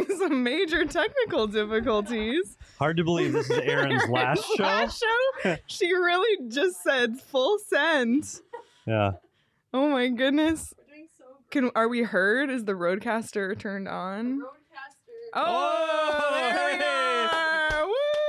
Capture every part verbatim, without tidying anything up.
having some major technical difficulties. Hard to believe this is Erin's last show. Last show? She really just said full send. Yeah. Oh my goodness. Can are we heard? Is the roadcaster turned on? Roadcaster. Oh, Oh, there we hey. are.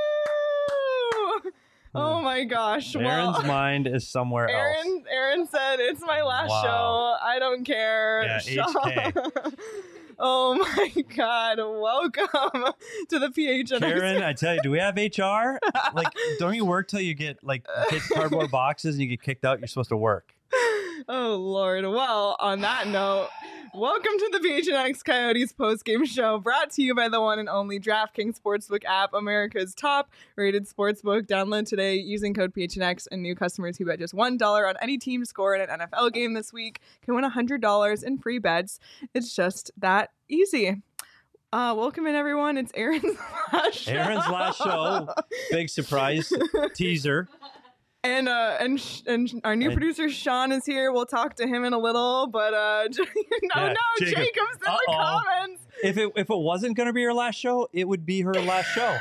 Woo! Oh my gosh. Erin's well, mind is somewhere else. Erin, Erin said it's my last Wow. show. I don't care. Yeah, Sean- H K. Oh my God. Welcome to the P H N X. Karen, I tell you, do we have H R? Like, don't you work till you get like get cardboard boxes and you get kicked out? You're supposed to work. Oh Lord. Well, on that note, welcome to the P H N X Coyotes postgame show, brought to you by the one and only DraftKings Sportsbook app, America's top rated sportsbook. Download today using code P H N X, and new customers who bet just one dollar on any team score in an N F L game this week can win one hundred dollars in free bets. It's just that easy. Uh, welcome in, everyone. It's Erin's last show. Erin's last show. Big surprise teaser. And uh, and sh- and sh- our new And- producer Sean is here. We'll talk to him in a little, but uh, no, Yeah, no, Jacob. Jacob's in the Uh-oh. comments. If it if it wasn't gonna be her last show, it would be her last show.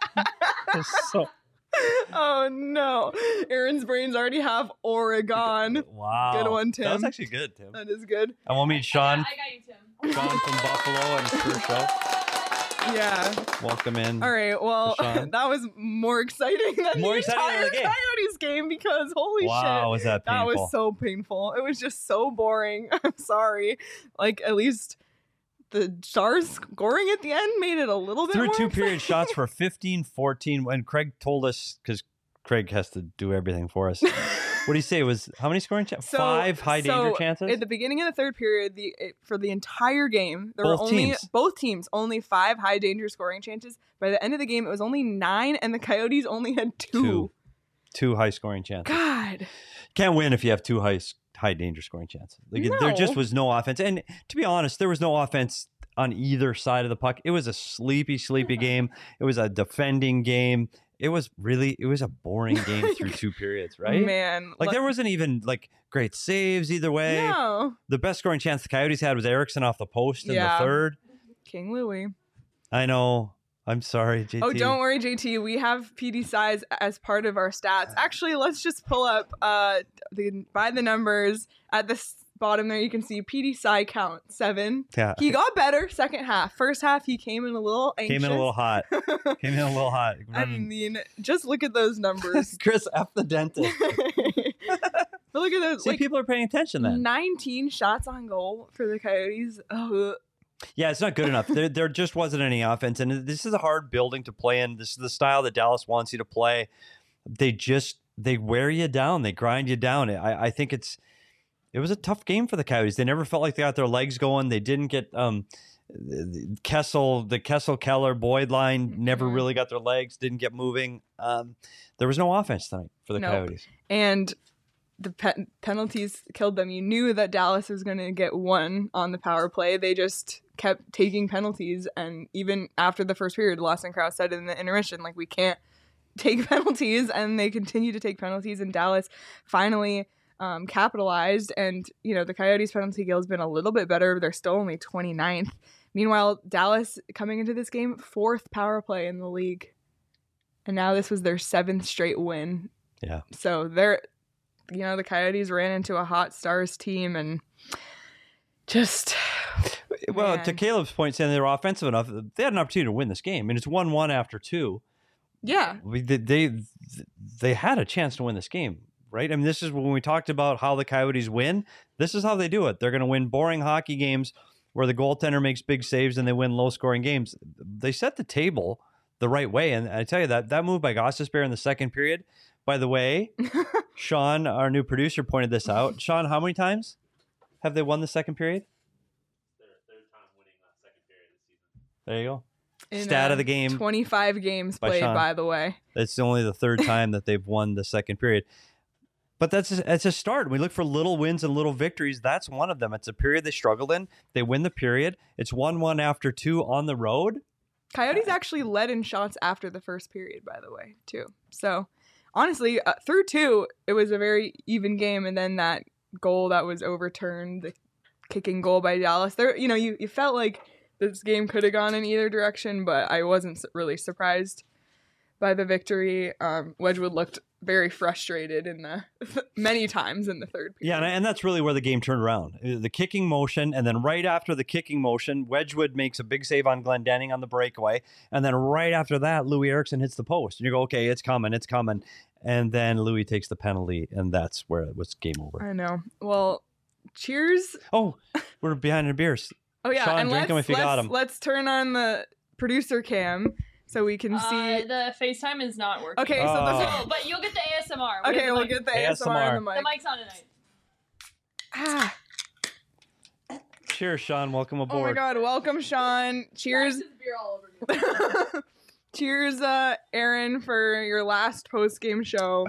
So Oh no, Erin's brains already have Oregon. wow, Good one, That was Tim. actually good, Tim. That is good. And we'll meet Sean, I got, I got you, Tim. Sean from Buffalo and his first show. Yeah. Welcome in. All right. Well, Sean. that was more exciting than More the exciting than entire the game. Coyotes game because holy Wow, shit. was that That painful? was so painful. It was just so boring. I'm sorry. Like, at least the Stars scoring at the end made it a little bit Through more two exciting. period shots for fifteen fourteen. When Craig told us, because Craig has to do everything for us. What do you say? It was how many scoring chances? So- Five high danger so chances? At the beginning of the third period, the it, for the entire game, there Both were only teams. both teams only five high danger scoring chances. By the end of the game, it was only nine, and the Coyotes only had two. Two. Two high scoring chances. God. Can't win if you have two high high danger scoring chances. Like there No. just was no offense. And to be honest, there was no offense on either side of the puck. It was a sleepy, sleepy game. It was a defending game. It was really, it was a boring game through two periods, right? Man. Like le- there wasn't even like great saves either way. No. The best scoring chance the Coyotes had was Erickson off the post in Yeah. the third. King Louie. I know. I'm sorry, J T. Oh, don't worry, J T. We have P D size as part of our stats. Actually, let's just pull up uh the by the numbers at the s- bottom there. You can see P D Psy count seven. Yeah. He got better second half. First half, he came in a little anxious. Came in a little hot. Came in a little hot. I Running- mean, just look at those numbers. Chris F the dentist. But look at those. See, Like, people are paying attention then. nineteen shots on goal for the Coyotes. Oh, Yeah, it's not good enough. There, there just wasn't any offense, and this is a hard building to play in. This is the style that Dallas wants you to play. They just they wear you down. They grind you down. I, I think it's it was a tough game for the Coyotes. They never felt like they got their legs going. They didn't get um, Kessel, the Kessel Keller Boyd line never Mhm. really got their legs. Didn't get moving. Um, there was no offense tonight for the Nope. Coyotes. and the pe- penalties killed them. You knew that Dallas was going to get one on the power play. They just kept taking penalties, and even after the first period, Lawson Krause said in the intermission, like, we can't take penalties, and they continue to take penalties, and Dallas finally um, capitalized, and, you know, the Coyotes' penalty kill has been a little bit better. They're still only twenty-ninth. Meanwhile, Dallas, coming into this game, fourth power play in the league, and now this was their seventh straight win. Yeah. So they're, you know, the Coyotes ran into a hot Stars team and just, Well, Man. to Caleb's point, saying they were offensive enough, they had an opportunity to win this game, and it's one one after two. yeah, We- They, they they had a chance to win this game, right? I mean, this is when we talked about how the Coyotes win. This is how they do it. They're going to win boring hockey games where the goaltender makes big saves and they win low-scoring games. They set the table the right way, and I tell you that that move by Gostisbehere in the second period. By the way, Sean, our new producer, pointed this out. Sean, how many times have they won the second period? There you go. in, Stat uh, of the game. twenty-five games by played, Sean. by the way. It's only the third time that they've won the second period. But that's a, that's a start. We look for little wins and little victories. That's one of them. It's a period they struggled in. They win the period. It's one one after two on the road. Coyotes actually led in shots after the first period, by the way, too. So, honestly, uh, through two, it was a very even game, and then that goal that was overturned, the kicking goal by Dallas, there, you know, you, you felt like this game could have gone in either direction, but I wasn't s- really surprised by the victory. Um, Wedgwood looked very frustrated in the many times in the third period. Yeah, and, and that's really where the game turned around. The kicking motion, and then right after the kicking motion, Wedgwood makes a big save on Glendenning on the breakaway, and then right after that, Louis Eriksson hits the post. And you go, okay, it's coming, it's coming. And then Louis takes the penalty, and that's where it was game over. I know. Well, cheers. Oh, we're behind the beers. Oh, yeah. Sean, and drink let's, 'em if you got let's- 'em. Let's turn on the producer cam so we can Uh, see. the FaceTime is not working. Okay, so Oh. the. So, but you'll get the A S M R. Okay, get the we'll mic. get the A S M R. A S M R on the The mic. mic's on tonight. Ah, Cheers, Sean. Welcome oh my aboard. God! Welcome, Sean. Cheers. There's beer all over me. Cheers, uh, Aaron, for your last post game show.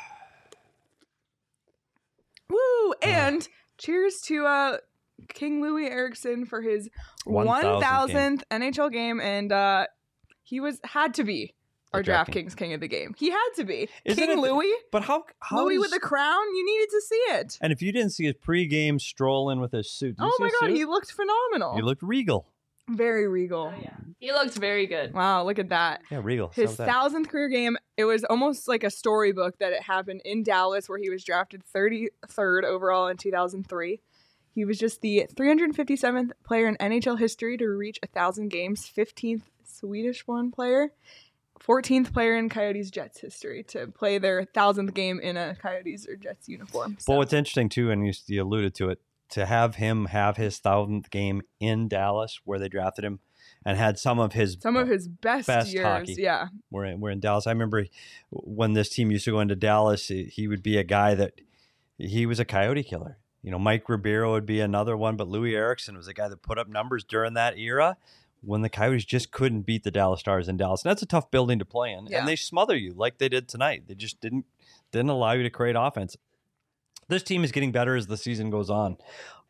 Woo! And cheers to uh, King Louis Eriksson for his one one thousandth thousandth N H L game, and uh, he was had to be our The DraftKings. DraftKings King of the game. He had to be Isn't King it- Louis. But how? how Louis does- with the crown. You needed to see it. And if you didn't see his pregame stroll in with his suit, did you Oh see my his God, suit? he looked phenomenal. He looked regal. Very regal. Oh, yeah. He looked very good. Wow, look at that. Yeah, regal. His So that- thousandth career game, it was almost like a storybook that it happened in Dallas, where he was drafted thirty-third overall in two thousand three. He was just the three hundred fifty-seventh player in N H L history to reach one thousand games, fifteenth Swedish-born player, fourteenth player in Coyotes Jets history to play their thousandth game in a Coyotes or Jets uniform. So, Well, what's interesting too, and you, you alluded to it, to have him have his thousandth game in Dallas, where they drafted him, and had some of his some of his best, best years. hockey. Yeah. We're in, we're in Dallas. I remember when this team used to go into Dallas, he he would be a guy that he was a coyote killer. You know, Mike Ribeiro would be another one, but Louis Eriksson was a guy that put up numbers during that era when the Coyotes just couldn't beat the Dallas Stars in Dallas. And that's a tough building to play in. Yeah. And they smother you like they did tonight. They just didn't didn't allow you to create offense. This team is getting better as the season goes on.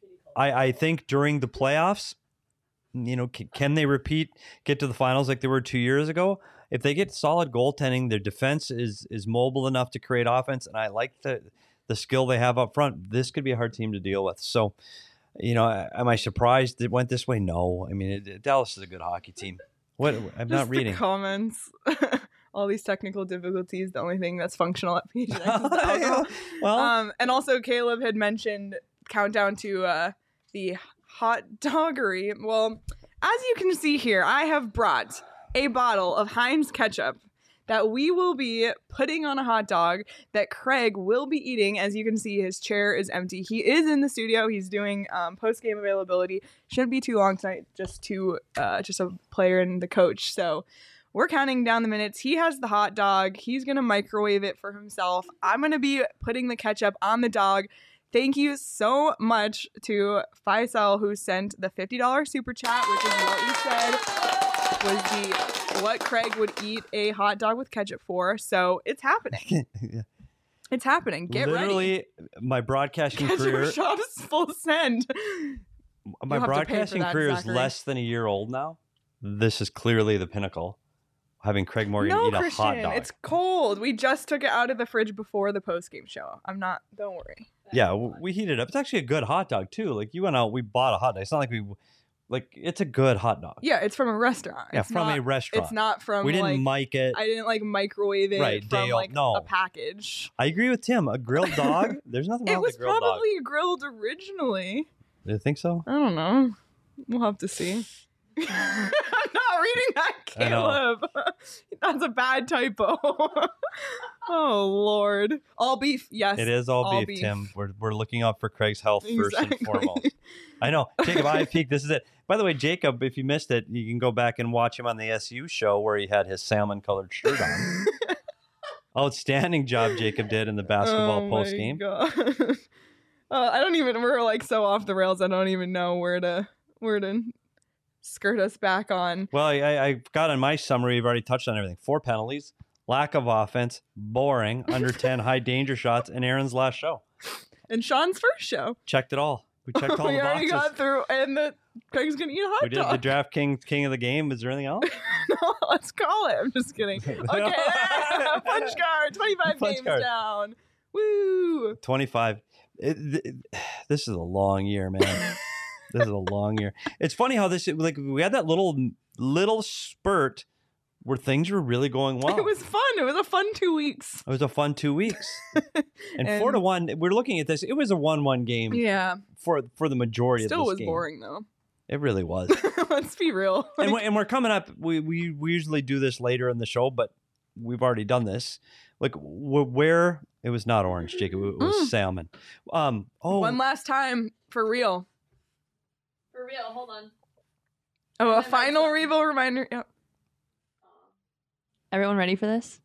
I, I think during the playoffs, you know, can, can they repeat, get to the finals like they were two years ago? If they get solid goaltending, their defense is is mobile enough to create offense, and I like the the skill they have up front. This could be a hard team to deal with. So, you know, am I surprised it went this way? No. I mean, it, Dallas is a good hockey team. What I'm Just not reading. the comments. All these technical difficulties. The only thing that's functional at P H N X is the alcohol. Well, Um, and also Caleb had mentioned countdown to uh, the hot doggery. Well, as you can see here, I have brought a bottle of Heinz ketchup that we will be putting on a hot dog that Craig will be eating. As you can see, his chair is empty. He is in the studio. He's doing um, post-game availability. Shouldn't be too long tonight, just two, uh, just a player and the coach. So we're counting down the minutes. He has the hot dog. He's going to microwave it for himself. I'm going to be putting the ketchup on the dog. Thank you so much to Faisal, who sent the fifty dollars super chat, which is what you said was the what Craig would eat a hot dog with ketchup for. So it's happening. yeah. It's happening. Get Literally, ready. my broadcasting Ketchup career, shot is full send. my You'll have to pay for broadcasting that, career is Zachary. less than a year old now. This is clearly the pinnacle. Having Craig Morgan No, eat a Christian, hot dog. it's cold. We just took it out of the fridge before the post game show. I'm not. Don't worry. Yeah, w- we heated it up. It's actually a good hot dog too. Like you went out, we bought a hot dog. It's not like we, like it's a good hot dog. Yeah, it's from a restaurant. Yeah, It's from not, a restaurant. It's not from. we didn't like, mic it. I didn't like microwave it Right, from Dale, like no. a package. I agree with Tim. A grilled dog. There's nothing wrong It was with a grilled probably grilled originally. dog. Do you think so? I don't know. We'll have to see. I'm not reading that, I know. Caleb. That's a bad typo. Oh Lord. All beef, yes. It is all, all beef, beef. Tim. We're we're looking out for Craig's health first and Exactly. foremost. I know. Jacob I Peak, this is it. By the way, Jacob, if you missed it, you can go back and watch him on the S U show where he had his salmon colored shirt on. Outstanding job Jacob did in the basketball Oh post my game. God. uh, I don't even. We're like so off the rails. I don't even know where to where to skirt us back on. Well, I, I got on my summary. You've already touched on everything. Four penalties, lack of offense, boring, under ten high danger shots, and Aaron's last show. And Sean's first show. Checked it all. We checked all we the already boxes. got through, and the Craig's gonna eat a hot We did dog. the draft king king of the game. Is there anything else? No, let's call it. I'm just kidding. Okay, yeah, punch card. twenty-five Punch games card. down. Woo! twenty-five. It, th- this is a long year, man. This is a long year. It's funny how this like we had that little little spurt where things were really going well. It was fun. It was a fun two weeks. It was a fun two weeks. And, And- four to one, we're looking at this. It was a one-one game Yeah. for for the majority Still of this was game. boring though. It really was. Let's be real. and, Like, we- and we're coming up. We, we we usually do this later in the show, but we've already done this. Like wh- where it was not orange, Jacob. It was Mm. salmon. Um. Oh, one last time for real. For real, hold on. Oh, a And then final that's- reveal reminder. Yep. Everyone ready for this?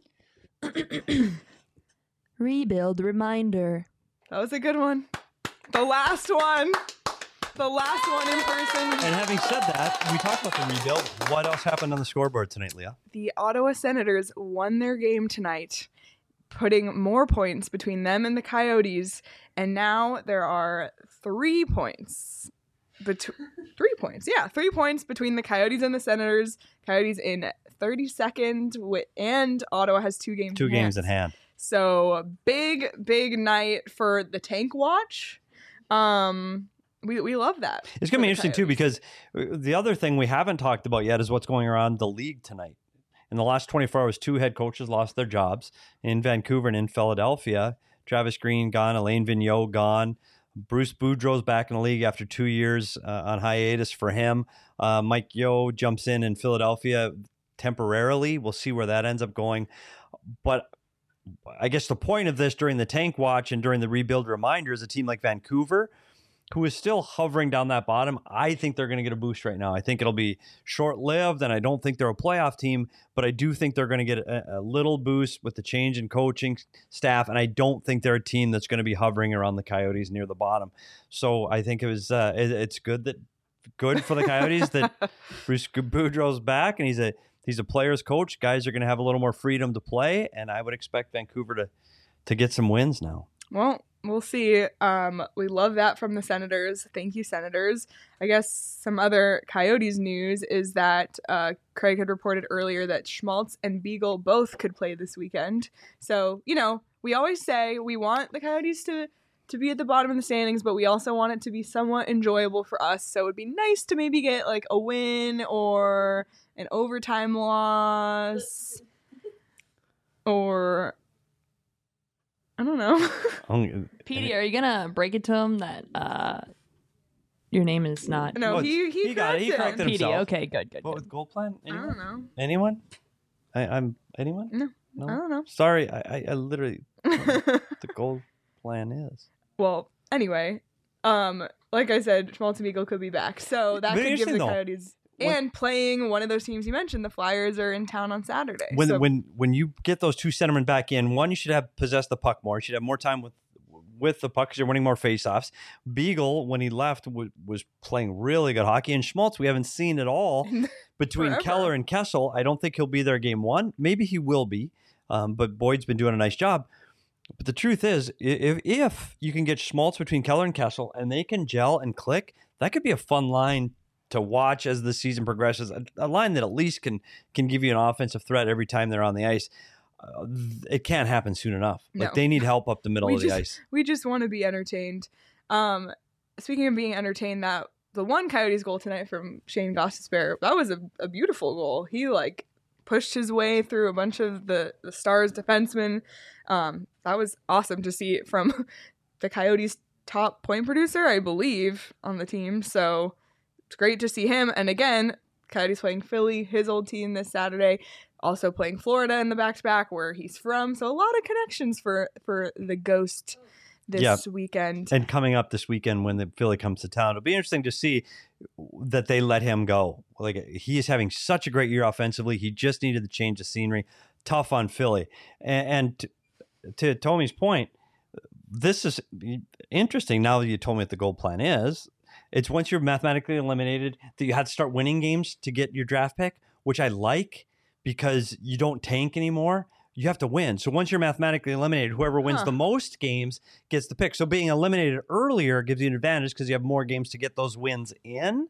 Rebuild reminder. That was a good one. The last one. The last one in person. and having said that, we talked about the rebuild. What else happened on the scoreboard tonight, Leah? The Ottawa Senators won their game tonight, putting more points between them and the Coyotes, and now there are three points. Bet- three points, yeah, three points between the Coyotes and the Senators. Coyotes in thirty-second, wi- and Ottawa has two games. Two in games hand. in hand. So big, big night for the tank watch. Um, we we love that. It's going to for be the interesting too, Coyotes. because the other thing we haven't talked about yet is what's going around the league tonight. In the last twenty-four hours, two head coaches lost their jobs in Vancouver and in Philadelphia. Travis Green gone, Alain Vigneault gone. Bruce Boudreau's back in the league after two years uh, on hiatus for him. Uh, Mike Yeo jumps in in Philadelphia temporarily. We'll see where that ends up going. But I guess the point of this during the tank watch and during the rebuild reminder is a team like Vancouver, who is still hovering down that bottom. I think they're going to get a boost right now. I think it'll be short-lived, and I don't think they're a playoff team, but I do think they're going to get a, a little boost with the change in coaching staff, and I don't think they're a team that's going to be hovering around the Coyotes near the bottom. So I think it was uh, it, it's good that good for the Coyotes that Bruce Boudreau's back, and he's a he's a player's coach. Guys are going to have a little more freedom to play, and I would expect Vancouver to to get some wins now. Well, we'll see. Um, we love that from the Senators. Thank you, Senators. I guess some other Coyotes news is that uh, Craig had reported earlier that Schmaltz and Beagle both could play this weekend. So, you know, we always say we want the Coyotes to, to be at the bottom of the standings, but we also want it to be somewhat enjoyable for us. So it would be nice to maybe get like a win or an overtime loss or... I don't know. Um, Petey, are you gonna break it to him that uh, your name is not No, Well, he he, he got it. He corrected corrected Petey? himself. Okay, good, good, What good. with goal plan? I Anyone? don't know. Anyone? I, I'm anyone? No. No. I don't know. Sorry, I, I, I literally the goal plan is. Well, anyway, um, like I said, Schmaltz and Beagle could be back, so that Very could give the interesting, though. Coyotes. When- And playing one of those teams you mentioned, the Flyers are in town on Saturday. When so when when you get those two centermen back in, one you should have possessed the puck more. You should have more time with with the puck because you're winning more faceoffs. Beagle, when he left, w- was playing really good hockey, and Schmaltz we haven't seen at all between Forever. Keller and Kessel. I don't think he'll be there game one. Maybe he will be, um, but Boyd's been doing a nice job. But the truth is, i- if if you can get Schmaltz between Keller and Kessel, and they can gel and click, that could be a fun line to watch as the season progresses. A, a line that at least can can give you an offensive threat every time they're on the ice. Uh, th- it can't happen soon enough. Like No. they need help up the middle We of the just- ice. we just want to be entertained. Um, speaking of being entertained, that the one Coyotes goal tonight from Shane Gostisbehere, that was a, a beautiful goal. He like pushed his way through a bunch of the, the Stars defensemen. Um, that was awesome to see it from the Coyotes' top point producer, I believe, on the team. So it's great to see him. And again, Coyotes playing Philly, his old team, this Saturday. Also playing Florida in the back-to-back where he's from. So a lot of connections for, for the Ghost this Yeah. weekend. And coming up this weekend when the Philly comes to town, it'll be interesting to see that they let him go. Like he is having such a great year offensively. He just needed the change of scenery. Tough on Philly. And, and to, to Tommy's point, this is interesting. Now that you told me what the goal plan is, it's once you're mathematically eliminated that you had to start winning games to get your draft pick, which I like because you don't tank anymore. You have to win. So once you're mathematically eliminated, whoever wins Huh. the most games gets the pick. So being eliminated earlier gives you an advantage because you have more games to get those wins in.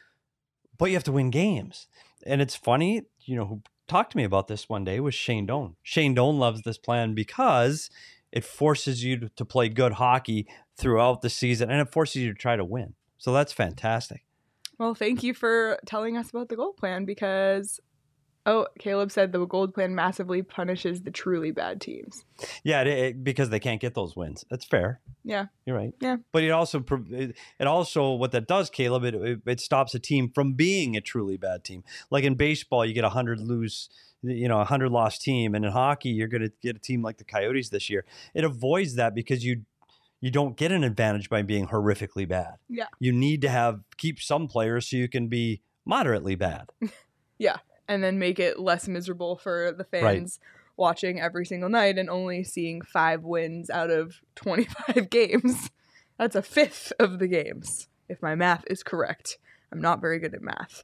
But you have to win games. And it's funny, you know, who talked to me about this one day was Shane Doan. Shane Doan loves this plan because it forces you to, to play good hockey throughout the season and it forces you to try to win. So that's fantastic. Well, thank you for telling us about the gold plan because, oh, Caleb said the gold plan massively punishes the truly bad teams. Yeah, it, it, because they can't get those wins. That's fair. Yeah. You're right. Yeah. But it also, it, it also, what that does, Caleb, it, it, it stops a team from being a truly bad team. Like in baseball, you get a hundred lose, you know, a hundred loss team. And in hockey, you're going to get a team like the Coyotes this year. It avoids that because you, you don't get an advantage by being horrifically bad. Yeah. You need to have, keep some players so you can be moderately bad. Yeah. And then make it less miserable for the fans right. watching every single night and only seeing five wins out of twenty-five games. That's a fifth of the games, if my math is correct. I'm not very good at math,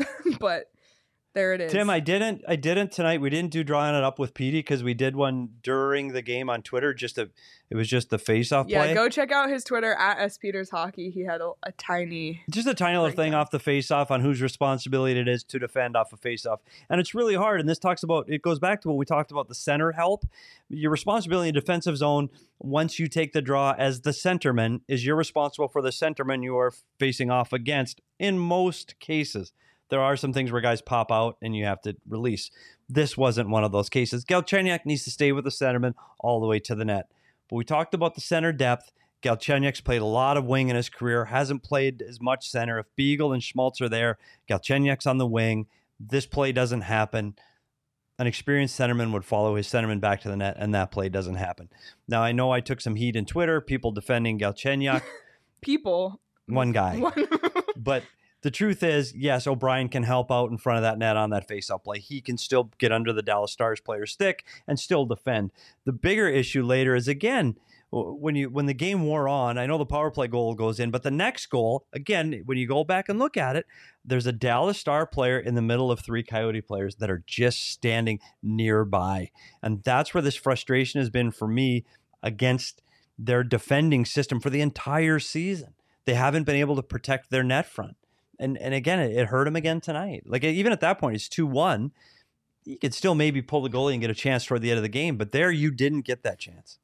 but there it is. Tim, I didn't, I didn't tonight. We didn't do drawing it up with Petey because we did one during the game on Twitter. Just a, it was just the face-off yeah, play. Yeah, go check out his Twitter at S Peters Hockey. He had a, a tiny, just a tiny little thing down. Off the face-off on whose responsibility it is to defend off a face-off, and it's really hard. And this talks about, it goes back to what we talked about the center help. Your responsibility in defensive zone once you take the draw as the centerman is you're responsible for the centerman you are facing off against in most cases. There are some things where guys pop out and you have to release. This wasn't one of those cases. Galchenyuk needs to stay with the centerman all the way to the net. But we talked about the center depth. Galchenyuk's played a lot of wing in his career, hasn't played as much center. If Beagle and Schmaltz are there, Galchenyuk's on the wing. This play doesn't happen. An experienced centerman would follow his centerman back to the net, and that play doesn't happen. Now, I know I took some heat in Twitter, people defending Galchenyuk. People? One guy. One. But the truth is, yes, O'Brien can help out in front of that net on that faceoff play. He can still get under the Dallas Stars player's stick and still defend. The bigger issue later is, again, when you when the game wore on, I know the power play goal goes in, but the next goal, again, when you go back and look at it, there's a Dallas Star player in the middle of three Coyote players that are just standing nearby. And that's where this frustration has been for me against their defending system for the entire season. They haven't been able to protect their net front. And and again, it, it hurt him again tonight. Like, even at that point, it's two one. You could still maybe pull the goalie and get a chance toward the end of the game. But there, you didn't get that chance.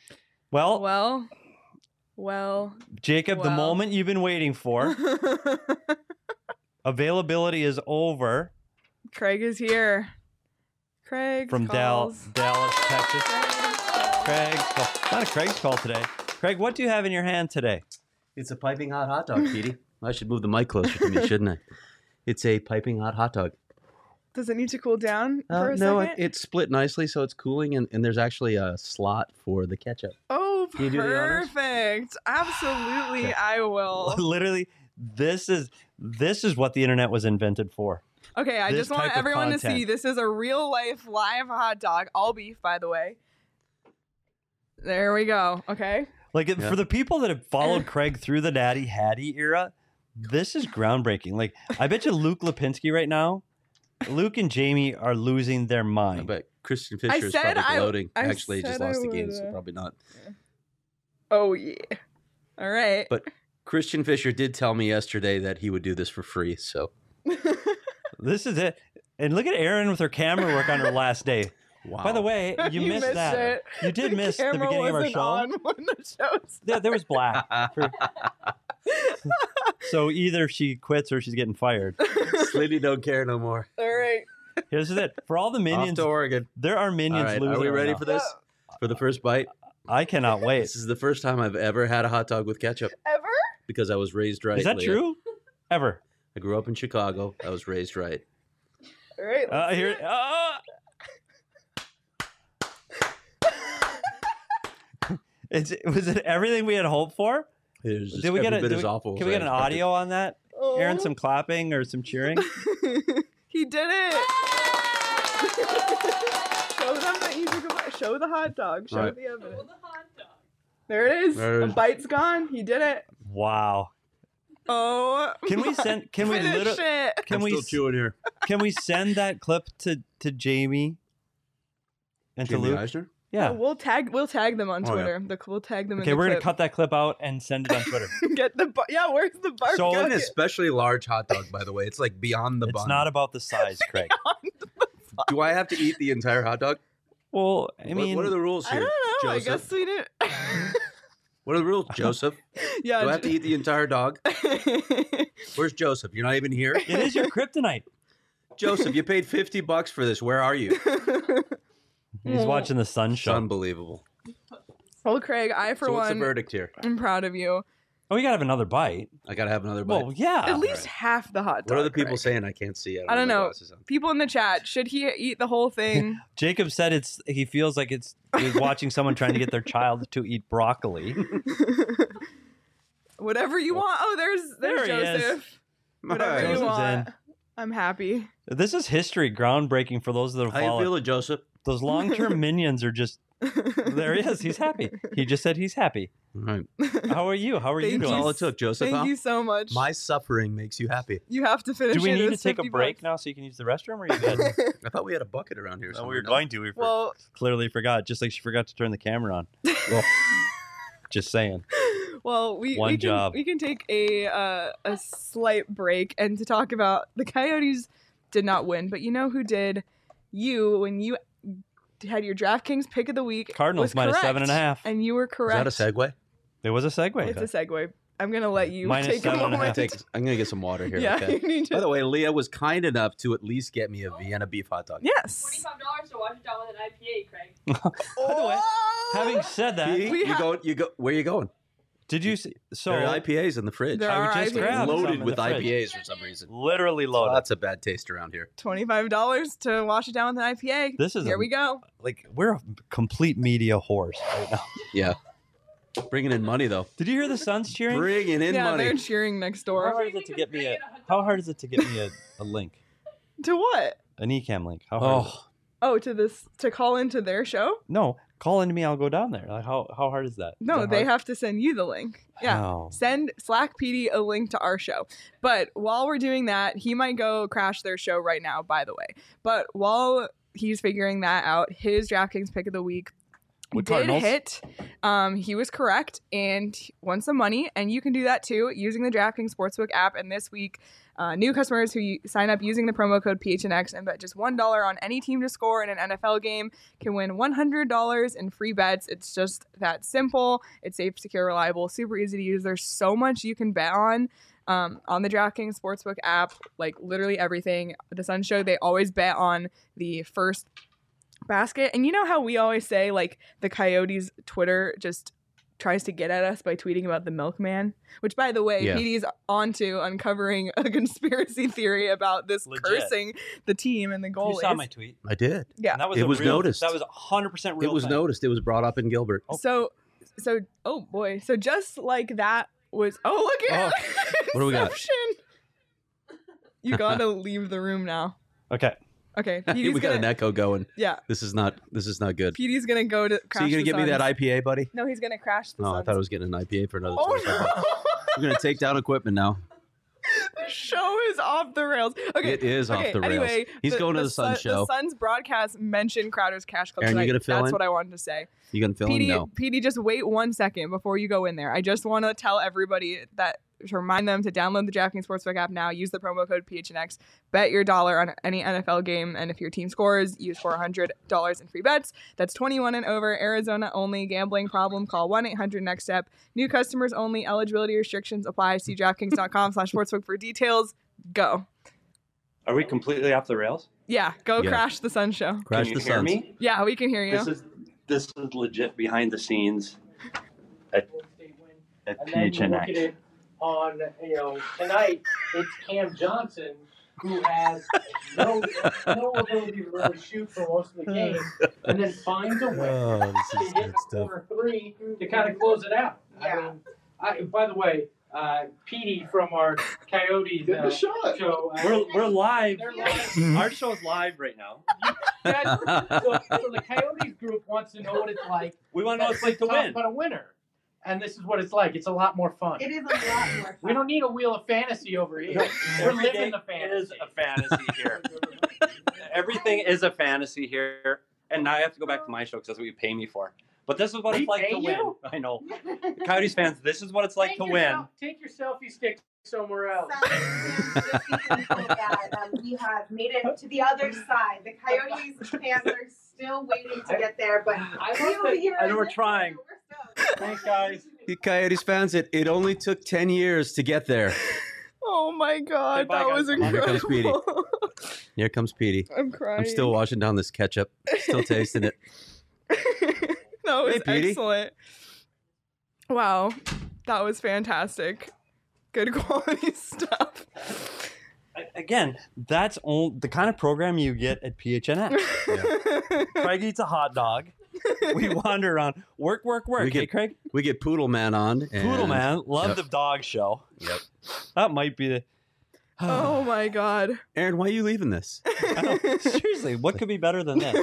Well, well, well, Jacob, well. the moment you've been waiting for. Availability is over. Craig is here. Craig from Dal- Dallas, Texas. Craig's call. Not a Craig's call today. Craig, what do you have in your hand today? It's a piping hot hot dog, Petey. I should move the mic closer to me, shouldn't I? It's a piping hot hot dog. Does it need to cool down uh, for a no, second? No, it, it's split nicely, so it's cooling, and, and there's actually a slot for the ketchup. Oh, perfect. Absolutely, okay. I will. Literally, this is this is what the internet was invented for. Okay, I this just want everyone to see this is a real life live hot dog, all beef, by the way. There we go. Okay. Like, yeah. For the people that have followed Craig through the Natty Hattie era, this is groundbreaking. Like, I bet you Luke Lipinski right now, Luke and Jamie are losing their mind. I bet Christian Fisher is probably gloating. I, I Actually, just lost the game, so probably not. Yeah. Oh, yeah. All right. But Christian Fisher did tell me yesterday that he would do this for free, so. This is it. And look at Erin with her camera work on her last day. Wow. By the way, you, you missed, missed that. It. You did the miss the beginning of our show. On when the show yeah, there was black. For... So either she quits or she's getting fired. Slitty don't care no more. All right. Here's it. For all the minions, off to Oregon. There are minions all right, losing. Are we ready right for this? For the first bite? I cannot wait. This is the first time I've ever had a hot dog with ketchup. Ever? Because I was raised right. Is that Leah. true? Ever? I grew up in Chicago. I was raised right. All right. Uh, here. Uh, It's, was it everything we had hoped for? It was just did we get a, bit did as we, awful Can as we I get an expected. audio on that? Oh. Aaron, some clapping or some cheering? He did it! Show them that you took a Show the hot dog. Show right. the evidence. Show the hot dog. There it is. There it a is. bite's gone. He did it. Wow. Oh. Can we send? Can we Finish literally? it. Can I'm we? still chewing here. Can we send that clip to to Jamie and Jamie to Luke? Eisner? Yeah. Oh, we'll tag. We'll tag them on Oh, yeah. Twitter. The, we'll tag them. Okay, in the we're gonna clip. cut that clip out and send it on Twitter. Get the bar- yeah. Where's the bar? So- It's Go an get- especially large hot dog, by the way. It's like beyond the It's bun. not about the size, Craig. Do I have to eat the entire hot dog? Well, I What- mean, what, are the rules I here, don't know. Joseph? I guess we didn't. What are the rules, Joseph? Yeah. Do I have to eat the entire dog? Where's Joseph? You're not even here? It is your kryptonite. Joseph, you paid fifty bucks for this. Where are you? He's watching the Sun It's Show. unbelievable. Well, Craig, I for So what's the one verdict here? am proud of you. Oh, you gotta have another bite. I gotta have another bite. Well, yeah. At least half the hot dog. What are the people Craig. saying? I can't see. I don't have my know. glasses on. People in the chat, should he eat the whole thing? Jacob said it's. He feels like it's. He's watching someone trying to get their child to eat broccoli. Whatever you want. Oh, there's there's There he is. Joseph. Whatever Hi. you Joseph's want. in. I'm happy. This is history, groundbreaking for those that have How you followed. feeling, Joseph? Those long-term minions are just. There he is. He's happy. He just said he's happy. All right. How are you? How are you Thank That's doing? all it took, Joseph. Thank huh? you so much. My suffering makes you happy. you have to finish Do we it. need to It's take a fifty break bucks. now so you can use the restroom, or are you good? I thought we had a bucket around here. No, somewhere, we were no? going to. We for- Well, clearly forgot. Just like she forgot to turn the camera on. Well, just saying. well, we, One we can job. we can take a uh, a slight break and to talk about the Coyotes did not win, but you know who did? You when you had your DraftKings pick of the week. Cardinals was minus correct, seven and a half. and you were Is correct. that a segue? It was a segue. It's a segue. I'm gonna let you Minus take a seven and a moment. half. Take, I'm gonna get some water here. yeah, Okay. you need By to. the way, Leah was kind enough to at least get me a Vienna beef hot dog. Yes. Twenty-five dollars to wash it down with an I P A, Craig. By the way, having said that, Pete, We you ha- go. You go. Where are you going? did you see? So there are I P As in the fridge. There I would are just I P As. grab some loaded in with the fridge. I P As for some reason. Literally loaded. Lots of bad taste around here. Twenty-five dollars to wash it down with an I P A. This is Here a- we go. Like we're a complete media horse right now. Yeah. Bringing in money though. Did you hear the Suns cheering? Bringing in yeah, money. they're cheering next How door. hard is it to get me a? How hard is it to get me a, a link, To what? an Ecamm link? How hard? Is it? Oh, Oh, to this to call into their show? No, call into me. I'll go down there. Like how how hard is that? Is No, that they hard? have to send you the link. Yeah. Oh. Send Slack P D a link to our show. But while we're doing that, he might go crash their show right now, by the way. But while he's figuring that out, his DraftKings pick of the week With did Cardinals? hit. Um, he was correct and won some money. And you can do that too using the DraftKings Sportsbook app. And this week, uh, new customers who y- sign up using the promo code P H N X and bet just one dollar on any team to score in an N F L game can win one hundred dollars in free bets. It's just that simple. It's safe, secure, reliable, super easy to use. There's so much you can bet on. Um, on the DraftKings Sportsbook app, like literally everything. The Sun Show, they always bet on the first basket. And you know how we always say, like, the Coyotes Twitter just tries to get at us by tweeting about the milkman? Which, by the way, Yeah. P D's onto uncovering a conspiracy theory about this Legit. cursing the team and the goalies. You saw my tweet. I did. Yeah. And that was It a was real- noticed. That was one hundred percent real. It was time. noticed. It was brought up in Gilbert. Oh. So, so, oh boy. So just like that was, oh, look at What do we got? Inception. You gotta leave the room now. Okay. Okay. we P D's got gonna, an echo going. yeah. This is not. This is not good. P D's gonna go to crash So you gonna the give me that Suns. I P A, buddy? No, he's gonna crash the No, I Suns. thought I was getting an I P A for another Oh twenty-five bucks. no! We're gonna take down equipment now. The show is off the rails. Okay, It is off okay, the rails. Anyway, He's going to the Sun Sun- show. The Suns broadcast mentioned Crowder's Cash Club Aaron, you tonight. gonna fill That's in? what I wanted to say. You gonna film? P D, No. P D, just wait one second before you go in there. I just want to tell everybody that to remind them to download the DraftKings Sportsbook app now. Use the promo code P H N X. Bet your dollar on any N F L game, and if your team scores, use four hundred dollars in free bets. That's twenty-one and over. Arizona only. Gambling problem? Call one eight hundred next step. New customers only. Eligibility restrictions apply. See DraftKings.com slash sportsbook for details. Go. Are we completely off the rails? Yeah, go Yeah. crash the Sun Show. Crash Can you the hear Suns. me? Yeah, we can hear you. This is this is legit behind the scenes at, at And P then H you N look X. at it on, you know, tonight, it's Cam Johnson who has no, no ability to really shoot for most of the game, and then finds a way Oh, this to is hit good the stuff. corner three to kind of close it out. I mean, I, by the way, uh, Petey from our Coyotes uh, show. Uh, We're we're live. They're live. Our show's live right now. Guys, so, so the Coyotes group wants to know what it's like. We want to know what it's like to talk win. about a winner. And this is what it's like. It's a lot more fun. It is a lot more fun. We don't need a wheel of fantasy over here. We're Every day living the fantasy. is a fantasy here. Everything is a fantasy here. And now I have to go back to my show because that's what you pay me for. But this is what We it's like pay to win. you? I know. Coyotes fans, this is what it's like Take to your win. sel- Take your selfie stick somewhere else. Just because of that, um, we have made it to the other side. The Coyotes fans are still waiting to get there, but I we love over that- here I know in we're this trying. corner, we're stoked. Thanks, guys. The Coyotes fans, it, it only took ten years to get there. Oh my god, Okay, bye, that guys. was Here comes incredible. Here comes Petey. I'm crying. I'm still washing down this ketchup. Still tasting it. That was Hey, Petey. excellent. Wow, that was fantastic. Good quality stuff. Again, that's all, the kind of program you get at P H N X. Craig eats a hot dog. We wander around. Work, work, work. We Hey, get- Craig? We get Poodle Man on. And, Poodle Man. Love Yep. the dog show. Yep. That might be the... Oh my god. Aaron, why are you leaving this? I don't- seriously, what could be better than this?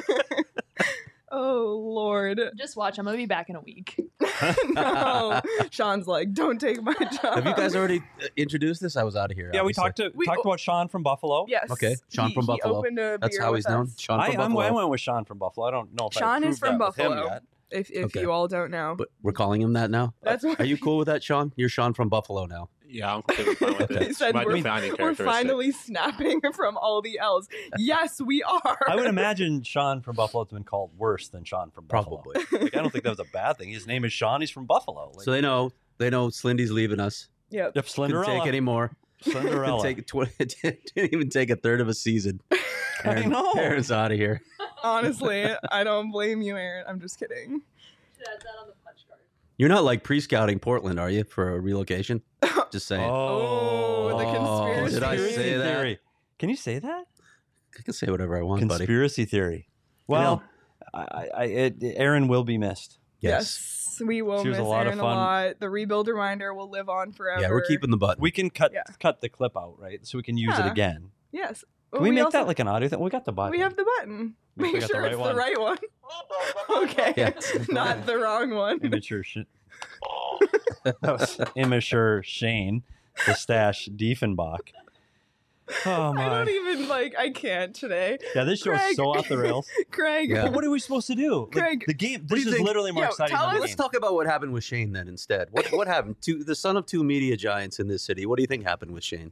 Oh lord. Just watch. I'm gonna be back in a week. No. Sean's like, don't take my job. Have you guys already uh, introduced this? I was out of here. Yeah, we obviously. talked to We- talked about Sean from Buffalo. Yes. Okay, Sean He- from he Buffalo. opened a That's beer how with he's known. us. Sean I, from I'm, Buffalo. I went with Sean from Buffalo. I don't know if Sean I is from proved that with him Buffalo. yet. If if Okay. you all don't know. But we're calling him that now. That's what Are you cool with that, Sean? You're Sean from Buffalo now. Yeah, I'm completely fine with He it. said My we're- defining We're characteristic. finally snapping from all the L's. Yes, we are. I would imagine Sean from Buffalo has been called worse than Sean from Buffalo. Probably. Like, I don't think that was a bad thing. His name is Sean. He's from Buffalo. Like, So they know. They know Slindy's leaving us. Yep. if Couldn't Slenderella. take any more. Slenderella. Take twenty, didn't even take a third of a season. I know. Aaron's out of here. Honestly, I don't blame you, Aaron. I'm just kidding. Should add that on the punch card. You're not like pre-scouting Portland, are you, for a relocation? Just saying. Oh, the conspiracy did I say that? theory. Can you say that? I can say whatever I want, buddy. Conspiracy theory. Well, I, I, it, Aaron will be missed. Yes, we will She was miss a lot of Aaron a fun. lot. The rebuild reminder will live on forever. Yeah, we're keeping the button. We can cut Yeah. cut the clip out, right? So we can use it Yeah. again. Yes. Can we, make also- that like an audio thing? We got the button. We have the button. We Make got sure the right it's one. the right one. Okay. Yeah. Not the wrong one. immature. Sh- that was immature Shane, the stash Diefenbach. Oh I my! don't even like. I can't today. Yeah, this show's Craig. so off the rails. Craig. Yeah. But what are we supposed to do? Like, Craig, the game. do This you is think- literally more Yo, exciting tell than the us- Let's game. talk about what happened with Shane then instead. What what happened to the son of two media giants in this city? What do you think happened with Shane?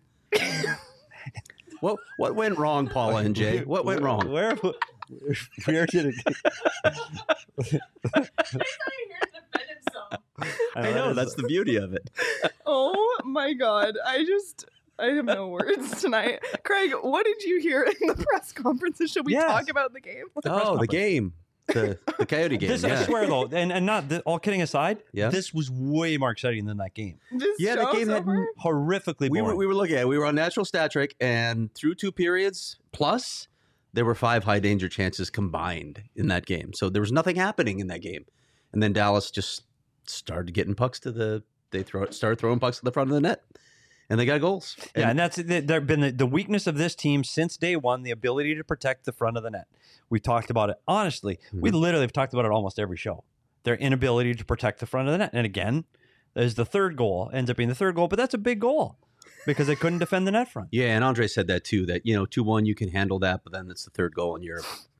what what went wrong, Paula and Jay? What went wrong? Where? Where did it? I know that's the beauty of it. Oh my god. I just. I have no words tonight. Craig, what did you hear in the press conferences? Should we Yes. talk about the game? Oh, the conference. game, the the Coyote game. This, yeah. I swear though, and, and not th- all kidding aside, Yeah. this was way more exciting than that game. This Yeah, the show's game had over? Horrifically we boring. were we were looking at it. We were on natural stat trick, and through two periods plus, there were five high danger chances combined in that game. So there was nothing happening in that game, and then Dallas just started getting pucks to the. They throw started throwing pucks to the front of the net, and they got goals. yeah, And- and that's th- there been the, the weakness of this team since day one, the ability to protect the front of the net. We talked about it honestly. We Mhm. literally have talked about it almost every show. Their inability to protect the front of the net, and again, there's the third goal ends up being the third goal, but that's a big goal because they couldn't defend the net front. Yeah, and Andre said that too. That you know, two one, you can handle that, but then it's the third goal, and you're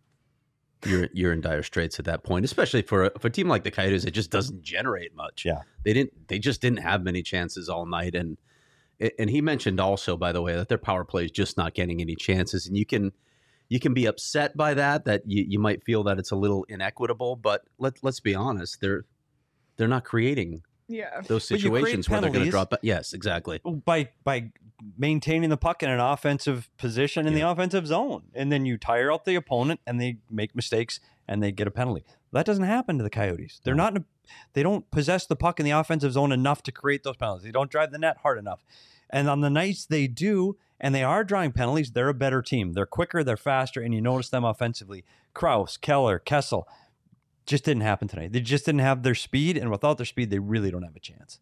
you're you're in dire straits at that point. Especially for a, for a team like the Coyotes, it just doesn't generate much. Yeah. they didn't. They just didn't have many chances all night, and and he mentioned also, by the way, that their power play is just not getting any chances, and you can you can be upset by that. That you, you might feel that it's a little inequitable, but let let's be honest, they're they're not creating Yeah. those But you create situations where they're going to penalties. drop. Ba- yes, exactly. by by maintaining the puck in an offensive position in Yeah. the offensive zone, and then you tire out the opponent, and they make mistakes, and they get a penalty. That doesn't happen to the Coyotes. They're No. not. In a, they don't possess the puck in the offensive zone enough to create those penalties. They don't drive the net hard enough. And on the nights they do, and they are drawing penalties, they're a better team. They're quicker, they're faster, and you notice them offensively. Kraus, Keller, Kessel, just didn't happen tonight. They just didn't have their speed, and without their speed, they really don't have a chance.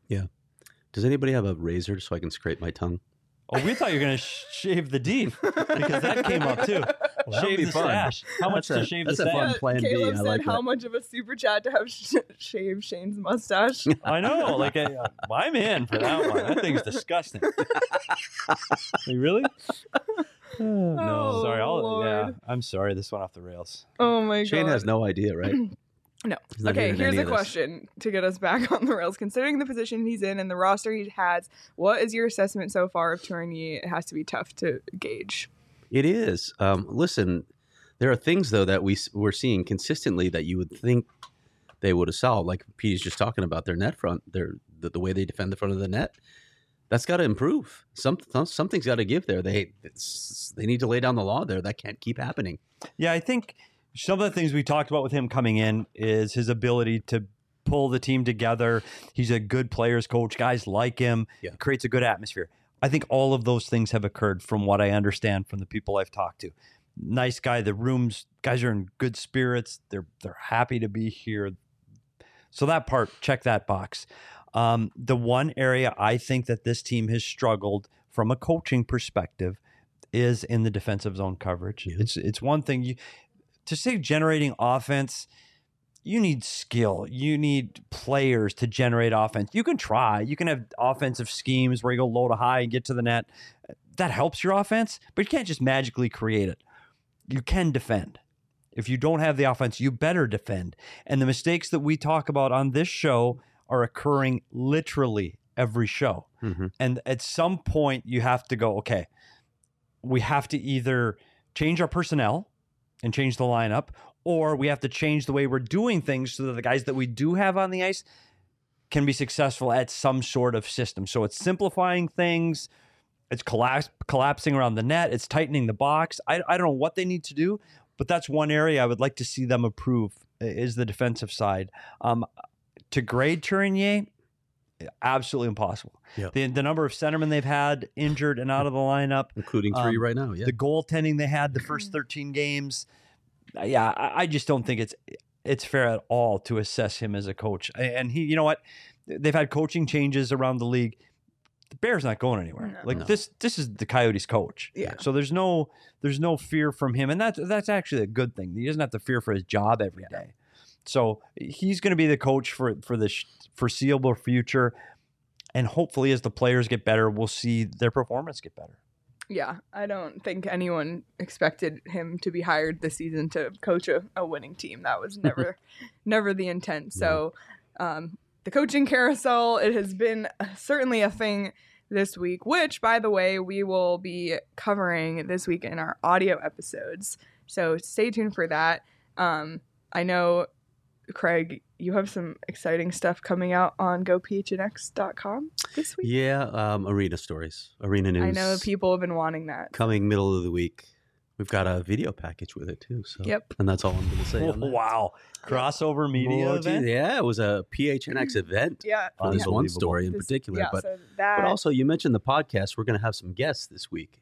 Does anybody have a razor so I can scrape my tongue? Oh, we thought you were going to sh- shave the deep because that came up too. Well, that would shave be the fun. stash. How much That's to a- shave that's the a stash? fun plan B. Caleb I said like how that. much of a super chat to have sh- shave Shane's mustache. I know. Like, I, I'm in for that one. That thing's disgusting. Hey, really? no. no. Sorry. I'll, Lord. yeah. I'm sorry. This went off the rails. Oh my Shane god. has no idea, right? No. He's not Okay, hearing here's any a of this. question to get us back on the rails. Considering the position he's in and the roster he has, what is your assessment so far of Tourigny? It has to be tough to gauge. It is. Um, listen, there are things though that we s- we're seeing consistently that you would think they would have solved. Like Pete's just talking about their net front, their the, the way they defend the front of the net. That's got to improve. Some, something's got to give there. They it's, they need to lay down the law there. That can't keep happening. Yeah, I think some of the things we talked about with him coming in is his ability to pull the team together. He's a good players coach. Guys like him. Yeah. He creates a good atmosphere. I think all of those things have occurred from what I understand from the people I've talked to. Nice guy. The rooms, guys are in good spirits. They're they're happy to be here. So that part, check that box. Um, the one area I think that this team has struggled from a coaching perspective is in the defensive zone coverage. Yeah. It's it's one thing you to say generating offense. You need skill. You need players to generate offense. You can try. You can have offensive schemes where you go low to high and get to the net. That helps your offense, but you can't just magically create it. You can defend. If you don't have the offense, you better defend. And the mistakes that we talk about on this show are occurring literally every show. Mm-hmm. And at some point, you have to go, okay, we have to either change our personnel and change the lineup, or we have to change the way we're doing things so that the guys that we do have on the ice can be successful at some sort of system. So it's simplifying things. It's collapse, collapsing around the net. It's tightening the box. I, I don't know what they need to do, but that's one area I would like to see them improve is the defensive side. Um, to grade Tourigny, absolutely impossible. Yeah. The, the number of centermen they've had injured and out of the lineup, Including three Um, right now. Yeah. the goaltending they had the first thirteen games. Yeah, I, I just don't think it's it's fair at all to assess him as a coach. And he, you know what? They've had coaching changes around the league. The Bears not going anywhere. No. Like No. this, this is the Coyotes coach. Yeah. So there's no there's no fear from him, and that's that's actually a good thing. He doesn't have to fear for his job every day. So he's going to be the coach for for the sh- foreseeable future, and hopefully, as the players get better, we'll see their performance get better. Yeah, I don't think anyone expected him to be hired this season to coach a, a winning team. That was never, never the intent. So, um, the coaching carousel, it has been certainly a thing this week, which, by the way, we will be covering this week in our audio episodes. So stay tuned for that. Um, I know, Craig, you have some exciting stuff coming out on go p h n x dot com this week. Yeah. Um, arena stories, arena news. I know people have been wanting that. Coming middle of the week. We've got a video package with it too. So. Yep. And that's all I'm going to say. on that. Wow, crossover media Oh, gee, event. yeah, it was a P H N X event Yeah. for this one Unbelievable. story in This- particular. yeah, but so that, but also, you mentioned the podcast. We're going to have some guests this week.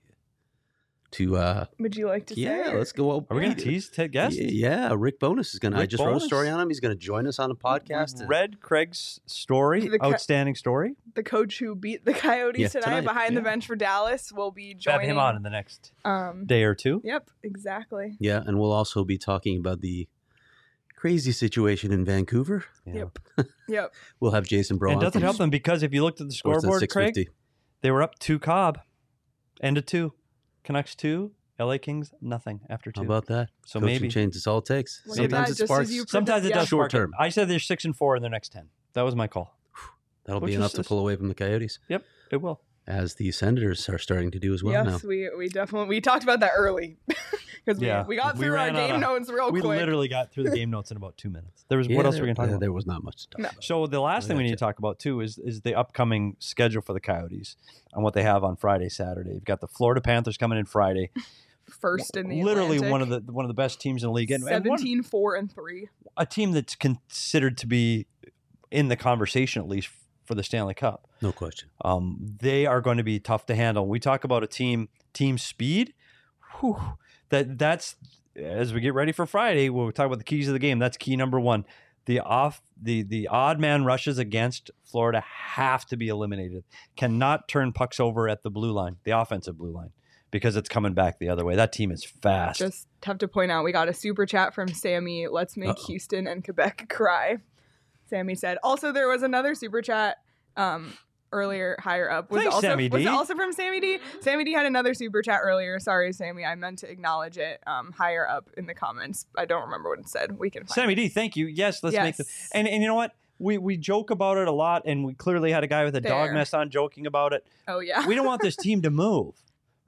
To uh, would you like to say? yeah, or- let's go. Are we going to tease Ted Guest? Yeah, Rick Bonus is going to. I Rick just wrote a Bowness? story on him. He's going to join us on a podcast. Read Craig's story, The co- outstanding story. the coach who beat the Coyotes Yeah, tonight, tonight, behind the yeah. bench for Dallas will be Have joining him on in the next Um, day or two. yep, exactly. Yeah, and we'll also be talking about the crazy situation in Vancouver. Yeah. Yep. Yep. We'll have Jason Brown. And doesn't from help them because if you looked at the Sportsnet scoreboard, Craig, six fifty. they were up two Cobb, end of two, Canucks two, L A Kings nothing after two. How about that? So Coaching maybe change is all it takes. Look at Sometimes that, it just as sparks. you sometimes it predict- does yeah. Short spark it. term. I said they're six and four in their next ten. That was my call. That'll Which be is enough to just- pull away from the Coyotes, Yep, it will. as the Senators are starting to do as well yes, now. we we definitely we talked about that early because we, Yeah, we got we through our ran out game of- notes real we quick. literally got through the game notes in about two minutes. There was Yeah, what else there, were we going to talk yeah, about? There was not much to talk No. about. So the last I thing we need gotcha. to talk about too is is the upcoming schedule for the Coyotes and what they have on Friday, Saturday. You've got the Florida Panthers coming in Friday. First in the literally Atlantic. one of the one of the best teams in the league, and, and one- seventeen, four, and three. a team that's considered to be in the conversation at least for the Stanley Cup. No question. Um, they are going to be tough to handle. We talk about a team team speed. Whew, that that's as we get ready for Friday. We'll talk about the keys of the game. That's key number one. The off the the odd man rushes against Florida have to be eliminated. Cannot turn pucks over at the blue line, the offensive blue line, because it's coming back the other way. That team is fast. Just have to point out we got a super chat from Sammy. Let's make Uh-oh. Houston and Quebec cry. Sammy said. Also, there was another super chat um, earlier, higher up. Was Thanks, also Sammy was D. it also from Sammy D. Sammy D had another super chat earlier. Sorry, Sammy. I meant to acknowledge it. Um, higher up in the comments. I don't remember what it said. We can find Sammy it. D, thank you. Yes, let's make the Yes. and and you know what? We we joke about it a lot, and we clearly had a guy with a dog There. mess on joking about it. Oh yeah. We don't want this team to move,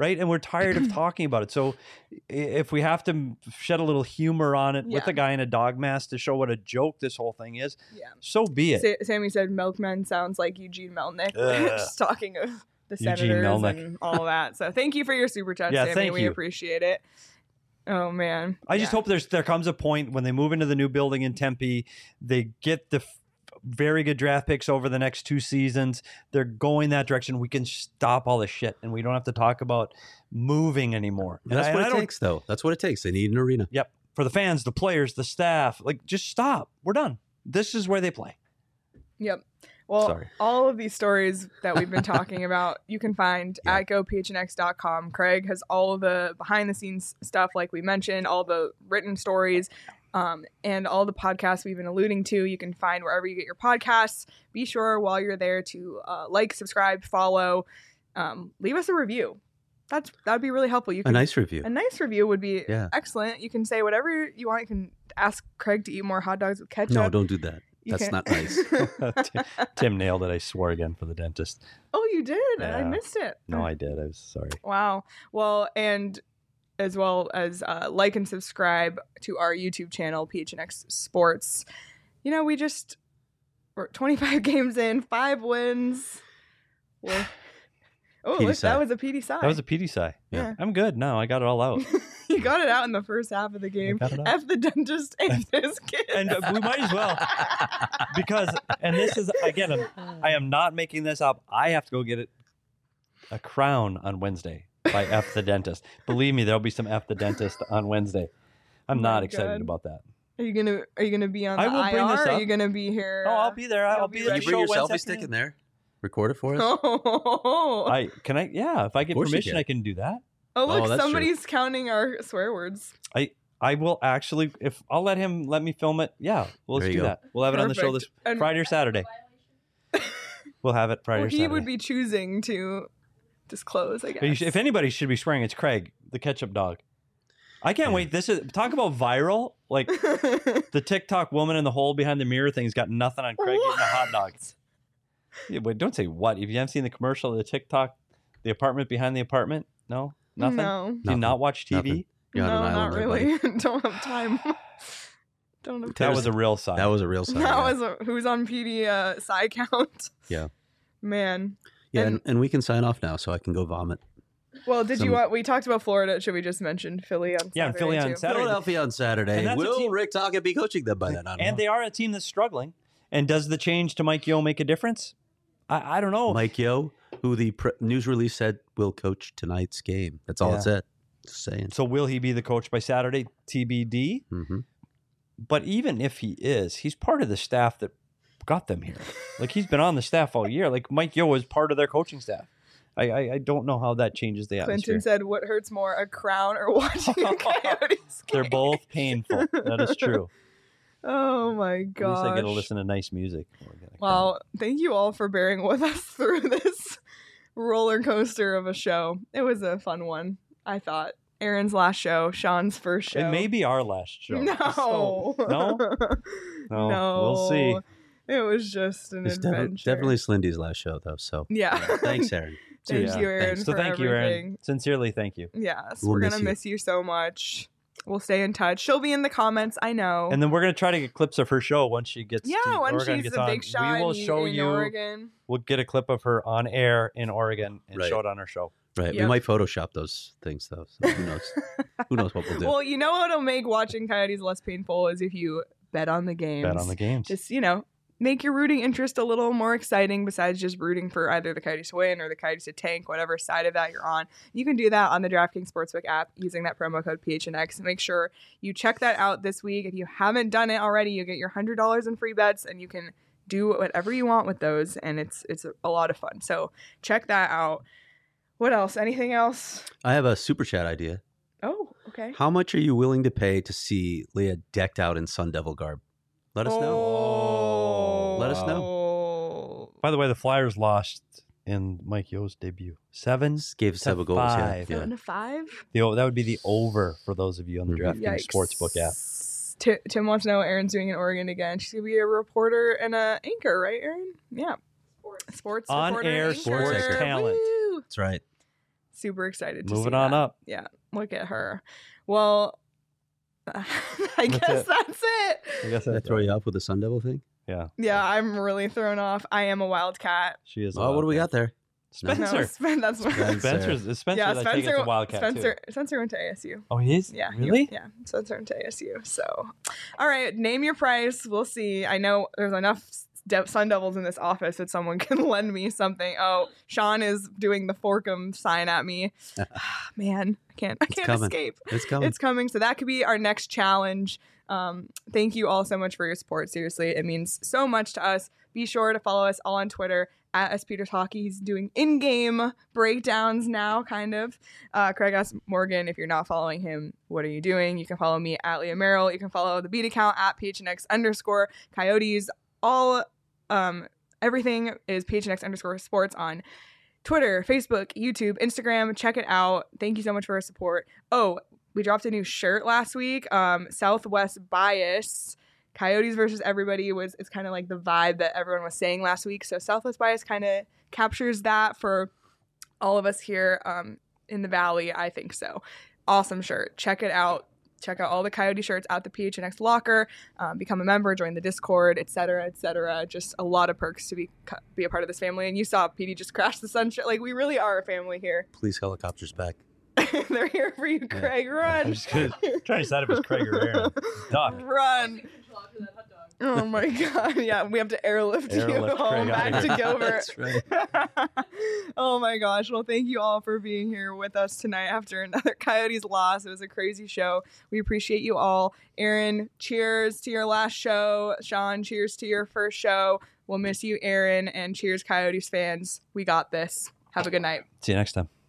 right? And we're tired of talking about it. So i- if we have to shed a little humor on it with Yeah. a guy in a dog mask to show what a joke this whole thing is, Yeah. so be it. Sa- Sammy said Milkman sounds like Eugene Melnick. Ugh. Just talking of the Eugene senators Melnick. and all that. So thank you for your super chat, Yeah, Sammy. thank we you. appreciate it. Oh man. I just Yeah. hope there's there comes a point when they move into the new building in Tempe, they get the f- very good draft picks over the next two seasons. They're going that direction. We can stop all this shit, and we don't have to talk about moving anymore. And That's I- what and I it don't- takes, though. That's what it takes. They need an arena. Yep. For the fans, the players, the staff, like just stop. We're done. This is where they play. Yep. Well, Sorry. all of these stories that we've been talking about, you can find Yeah. at go p h n x dot com. Craig has all of the behind the scenes stuff, like we mentioned, all the written stories, um, and all the podcasts we've been alluding to. You can find wherever you get your podcasts. Be sure while you're there to uh, like, subscribe, follow, um, leave us a review. That's that'd be really helpful. You A can nice review. a nice review would be Yeah. excellent. You can say whatever you want. You can ask Craig to eat more hot dogs with ketchup. No, don't do that. You That's can- not nice. Tim, Tim nailed it. I swore again for the dentist. Oh, you did? I Yeah. missed it. No, I did. I was sorry. Wow. Well, and as well as uh, like and subscribe to our YouTube channel, P H N X Sports. You know, we just we're twenty-five games in, five wins. We're, oh, P D look, side. that was a P D side. That was a P D side. Yeah. I'm good now. I got it all out. You got it out in the first half of the game. got it out. F the dentist and his kid. And uh, we might as well, because, and this is, again, I'm, I am not making this up. I have to go get it a crown on Wednesday by F the dentist. Believe me, there'll be some F the dentist on Wednesday. I'm Oh my not excited God. about that. Are you gonna Are you gonna be on the I will bring I R? this Or are up. you gonna be here? No, uh, I'll be there. I'll you'll be be there. Can ready. you bring your Show Wednesday selfie stick afternoon. in there? Record it for us? Oh, I can I yeah. If I get course you permission, can. I can do that. oh look, Oh, that's true. somebody's counting our swear words. I will actually. If I'll let him let me film it. Yeah, well, let's There you do go. that. We'll have it on the show this Perfect. And- Friday or Saturday. We'll have it Friday Well, or he Saturday. would be choosing to disclose, I But you guess. should- if anybody should be swearing, it's Craig, the ketchup dog. I can't Yeah. wait. This is talk about viral. Like the TikTok woman in the hole behind the mirror thing's got nothing on Craig eating a hot dog. Yeah, wait, don't say what. If you haven't seen the commercial of the TikTok, the apartment behind the apartment, no, nothing. No, Do you Nothing. not watch T V? Nothing. You're on no, an not island there, really. buddy. Don't have time. Don't have That time. was a real sign. That was a real sign. That yeah. was a, who's on P D uh, side count. Yeah. Man. Yeah, and, and- and we can sign off now so I can go vomit. Well, did Some- you want? We talked about Florida. Should we just mention Philly on? Yeah, and Saturday Philly on too? Saturday. Philadelphia on Saturday. And that's a Will team- Rick Tocchet be coaching them by then? I don't and know. they are a team that's struggling. And does the change to Mike Yo make a difference? I, I don't know. Mike Yo, who the pre- news release said will coach tonight's game. That's all Yeah. it said. Just saying. So will he be the coach by Saturday? T B D. hmm But even if he is, he's part of the staff that got them here. Like he's been on the staff all year. Like Mike Yo is part of their coaching staff. I I, I don't know how that changes the atmosphere. Clinton said, "What hurts more, a crown or watching a Coyotes They're game?" both painful. That is true. Oh my At least gosh! I get to listen to nice music. Well, thank you all for bearing with us through this roller coaster of a show. It was a fun one, I thought. Aaron's last show, Sean's first show. It may be our last show. No. So- no? No. No. We'll see. It was just an It's defi- adventure. definitely Slindy's last show, though. So Yeah. thanks, Aaron. Thank Yeah. you, Aaron, Thanks. So for thank you, everything. Aaron. Sincerely, thank you. Yes, We'll we're miss gonna you. miss you so much. We'll stay in touch. She'll be in the comments. I know. And then we're gonna try to get clips of her show once she gets. yeah, to when Oregon she's gets the on. big shot we will in- show in you. Oregon. We'll get a clip of her on air in Oregon and Right. show it on our show. Right. Yep. We might Photoshop those things, though. So who knows? Who knows what we'll do? Well, you know what'll make watching Coyotes less painful is if you bet on the games. Bet on the games. Just, you know, make your rooting interest a little more exciting besides just rooting for either the Coyotes to win or the Coyotes to tank, whatever side of that you're on. You can do that on the DraftKings Sportsbook app using that promo code P H N X. Make sure you check that out this week. If you haven't done it already, you get your one hundred dollars in free bets and you can do whatever you want with those, and it's it's a lot of fun. So check that out. What else? Anything else? I have a super chat idea. Oh, okay. How much are you willing to pay to see Leah decked out in Sun Devil garb? Let us know. Oh. Let us know. By the way, the Flyers lost in Mike Yo's debut. Seven. Just gave to seven goals. Yeah, five. yeah. Seven to five? The, o- that would be the over for those of you on the Mhm. DraftKings Sportsbook app. Ti- Tim wants to know what Aaron's doing in Oregon again. She's gonna be a reporter and a anchor, right, Aaron? Yeah. Sports. Sports On reporter, air anchor. sports talent. Woo! That's right. super excited to Moving see on that. up. Yeah, look at her. Well, I That's guess it. that's it. I guess Did I that's throw you off with the Sun Devil thing? Yeah, Yeah, I'm really thrown off. I am a wildcat. she is. a Oh, what do we Wildcat. got there? Spencer. No, Spen- that's Spencer. Spencer's is Spencer. yeah, I think Spencer. it's a Wildcat Spencer. too. Spencer went to A S U. Oh, he is. Yeah. he- Really? yeah. Spencer went to A S U. So, all right. Name your price. We'll see. I know there's enough De- Sun Devils in this office that someone can lend me something. Oh, Sean is doing the Forkum sign at me. Man, I can't. I It's can't coming. escape. It's coming. It's coming. So that could be our next challenge. Um, thank you all so much for your support. Seriously, it means so much to us. Be sure to follow us all on Twitter at S Peters Hockey. He's doing in-game breakdowns now, kind of. Uh, Craig asked Morgan, if you're not following him, what are you doing? You can follow me at Leah Merrill. You can follow the beat account at P H N X underscore Coyotes. All, um, everything is P H N X underscore sports on Twitter, Facebook, YouTube, Instagram. Check it out. Thank you so much for your support. Oh, we dropped a new shirt last week. Um, Southwest Bias, Coyotes versus everybody was it's kind of like the vibe that everyone was saying last week. So Southwest Bias kind of captures that for all of us here um, in the Valley. I think so. Awesome shirt. Check it out. Check out all the Coyote shirts at the P H N X locker. Um, become a member, join the Discord, et cetera, et cetera. Just a lot of perks to be be a part of this family. And you saw P D just crash the sunshine. Like, we really are a family here. Please helicopters back. They're here for you, Craig. Run. I'm just gonna, trying to decide if it's Craig or Aaron. Duck. Run. Oh my god. Yeah, we have to airlift, you Airlift home Craig back out to of here. Gilbert. That's right. Oh my gosh. Well, thank you all for being here with us tonight after another Coyotes loss. It was a crazy show. We appreciate you all. Aaron, cheers to your last show. Sean, cheers to your first show. We'll miss you, Aaron, and cheers, Coyotes fans. We got this. Have a good night. See you next time.